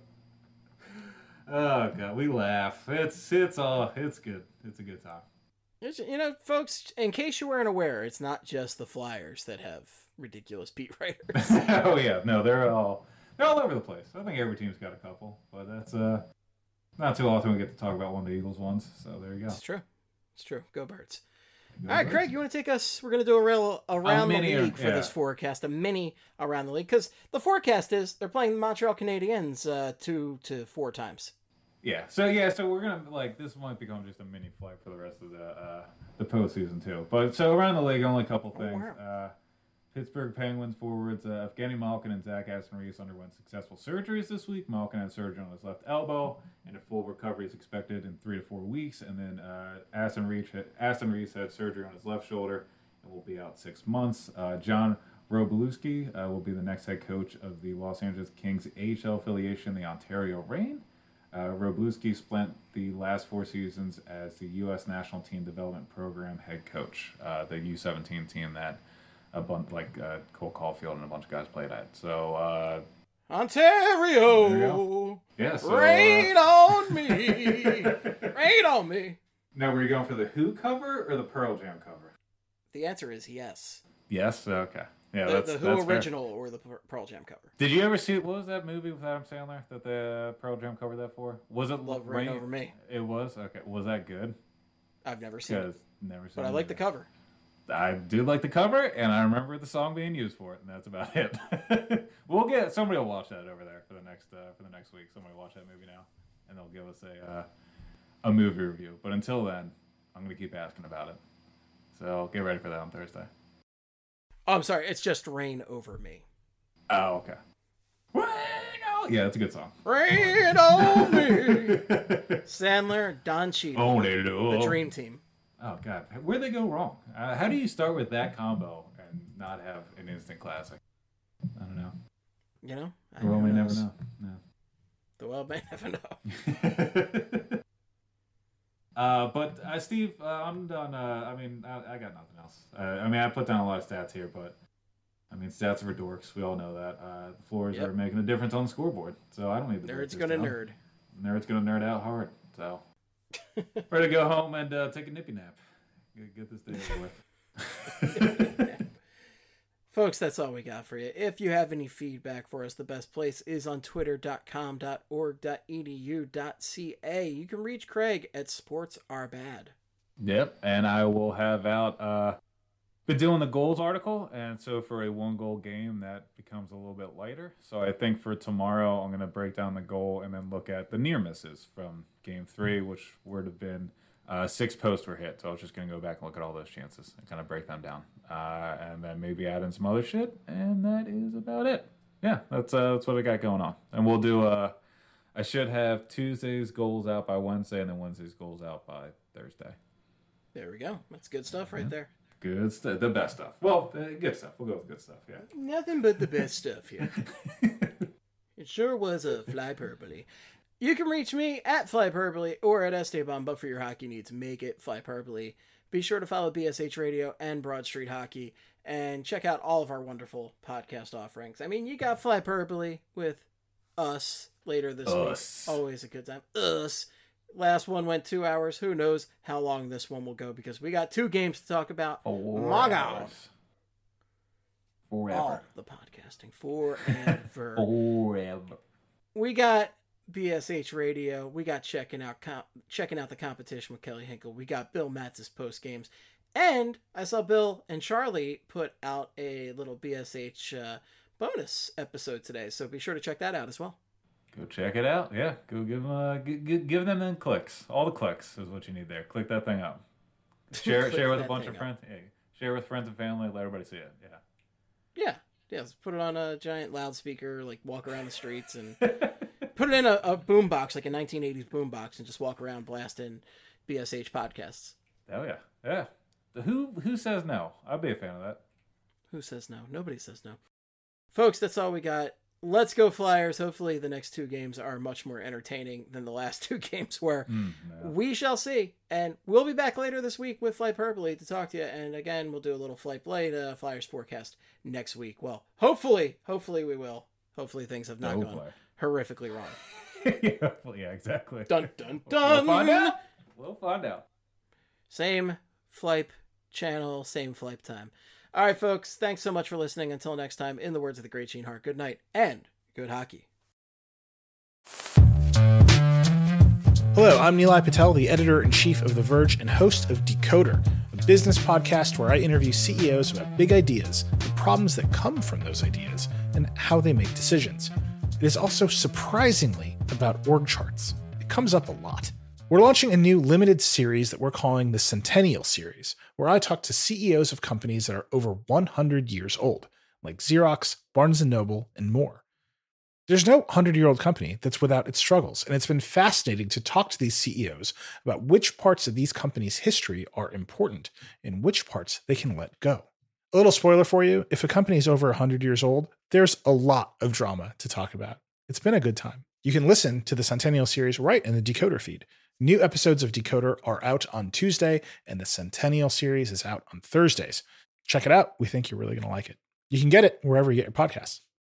oh god, we laugh. It's good. It's a good time. Folks, in case you weren't aware, it's not just the Flyers that have ridiculous beat writers. Oh yeah, no, they're all over the place. I think every team's got a couple, but that's not too often we get to talk about one of the Eagles ones. So there you go. It's true. Go Birds. All right, Craig, you want to take us? We're going to do a around the league for this forecast, a mini around the league, because the forecast is they're playing the Montreal Canadiens 2 to 4 times. Yeah, so we're gonna this might become just a mini flight for the rest of the postseason too. But so around the league, only a couple things. Wow. Pittsburgh Penguins forwards Evgeny Malkin and Zach Aston-Reese underwent successful surgeries this week. Malkin had surgery on his left elbow, and a full recovery is expected in 3 to 4 weeks. And then Aston-Reese had surgery on his left shoulder and will be out 6 months. John Wroblewski will be the next head coach of the Los Angeles Kings AHL affiliation, the Ontario Reign. Wroblewski spent the last 4 seasons as the U.S. National Team Development Program head coach, the U17 team that a bunch Cole Caulfield and a bunch of guys played at. So Ontario, yeah, so, rain on me, rain on me. Now, were you going for the Who cover or the Pearl Jam cover? The answer is yes. Yes. Okay. Yeah, the Who original fair. Or the Pearl Jam cover. Did you ever see what was that movie with Adam Sandler that the Pearl Jam covered that for? Was it Love Rain Over Me? It was. Okay. Was that good? I've never seen it. Never seen but I like the cover. I do like the cover, and I remember the song being used for it, and that's about it. Somebody will watch that over there for the next week. Somebody will watch that movie now, and they'll give us a movie review. But until then, I'm going to keep asking about it. So get ready for that on Thursday. Oh, I'm sorry. It's just Rain Over Me. Oh, okay. Yeah, that's a good song. Rain on me. Sandler, Don Cheadle, the Dream Team. Oh, God. Where'd they go wrong? How do you start with that combo and not have an instant classic? I don't know. The world may never know. No. The world may never know. But Steve, I'm done. I got nothing else. I put down a lot of stats here, but stats are for dorks. We all know that. The floors are making a difference on the scoreboard, so I don't need the Nerd's gonna nerd. Nerd's gonna nerd out hard. So ready to go home and take a nippy nap. Get this day over with. Folks, that's all we got for you. If you have any feedback for us, the best place is on twitter.com.org.edu.ca. You can reach Craig at sportsarbad. Yep, and I will have out been doing the goals article, and so for a 1-goal game, that becomes a little bit lighter. So I think for tomorrow, I'm going to break down the goal and then look at the near misses from Game 3, which would have been 6 posts were hit. So I was just going to go back and look at all those chances and kind of break them down. And then maybe add in some other shit, and that is about it. Yeah, that's what I got going on. And we'll do, I should have Tuesday's goals out by Wednesday, and then Wednesday's goals out by Thursday. There we go. That's good stuff right there. Good stuff. The best stuff. Well, good stuff. We'll go with good stuff, yeah. Nothing but the best stuff here. It sure was a flyperbole. You can reach me at flyperbole or at Esteban, but for your hockey needs, make it flyperbole. Be sure to follow BSH Radio and Broad Street Hockey and check out all of our wonderful podcast offerings. You got Flyperbole with us later this week. Always a good time. Us. Last one went 2 hours. Who knows how long this one will go because we got 2 games to talk about. My God. Forever. All the podcasting. Forever. Forever. We got BSH Radio. We got checking out the competition with Kelly Hinkle. We got Bill Matz's post games. And I saw Bill and Charlie put out a little BSH bonus episode today. So be sure to check that out as well. Go check it out. Yeah, go give them them clicks. All the clicks is what you need there. Click that thing up. Share with a bunch of friends. Yeah, share with friends and family. Let everybody see it. Yeah. Yeah. Let's put it on a giant loudspeaker. Like walk around the streets and put it in a boombox, like a 1980s boombox, and just walk around blasting BSH podcasts. Oh yeah, yeah. Who says no? I'd be a fan of that. Who says no? Nobody says no. Folks, that's all we got. Let's go Flyers. Hopefully the next two games are much more entertaining than the last two games were. No. We shall see. And we'll be back later this week with Flight Hyperbole to talk to you. And again, we'll do a little Flight Blade Flyers forecast next week. Well, hopefully we will. Hopefully things have not gone horrifically wrong. Yeah, exactly. Dun, dun, dun. We'll find out. Same Flight channel, same flight time. All right, folks, thanks so much for listening. Until next time, in the words of the great Gene Hart, good night and good hockey. Hello, I'm Nilay Patel, the editor-in-chief of The Verge and host of Decoder, a business podcast where I interview CEOs about big ideas, the problems that come from those ideas, and how they make decisions. It is also surprisingly about org charts. It comes up a lot. We're launching a new limited series that we're calling the Centennial Series, where I talk to CEOs of companies that are over 100 years old, like Xerox, Barnes & Noble, and more. There's no 100-year-old company that's without its struggles, and it's been fascinating to talk to these CEOs about which parts of these companies' history are important and which parts they can let go. A little spoiler for you, if a company is over 100 years old, there's a lot of drama to talk about. It's been a good time. You can listen to the Centennial Series right in the Decoder feed. New episodes of Decoder are out on Tuesday, and the Centennial Series is out on Thursdays. Check it out. We think you're really going to like it. You can get it wherever you get your podcasts.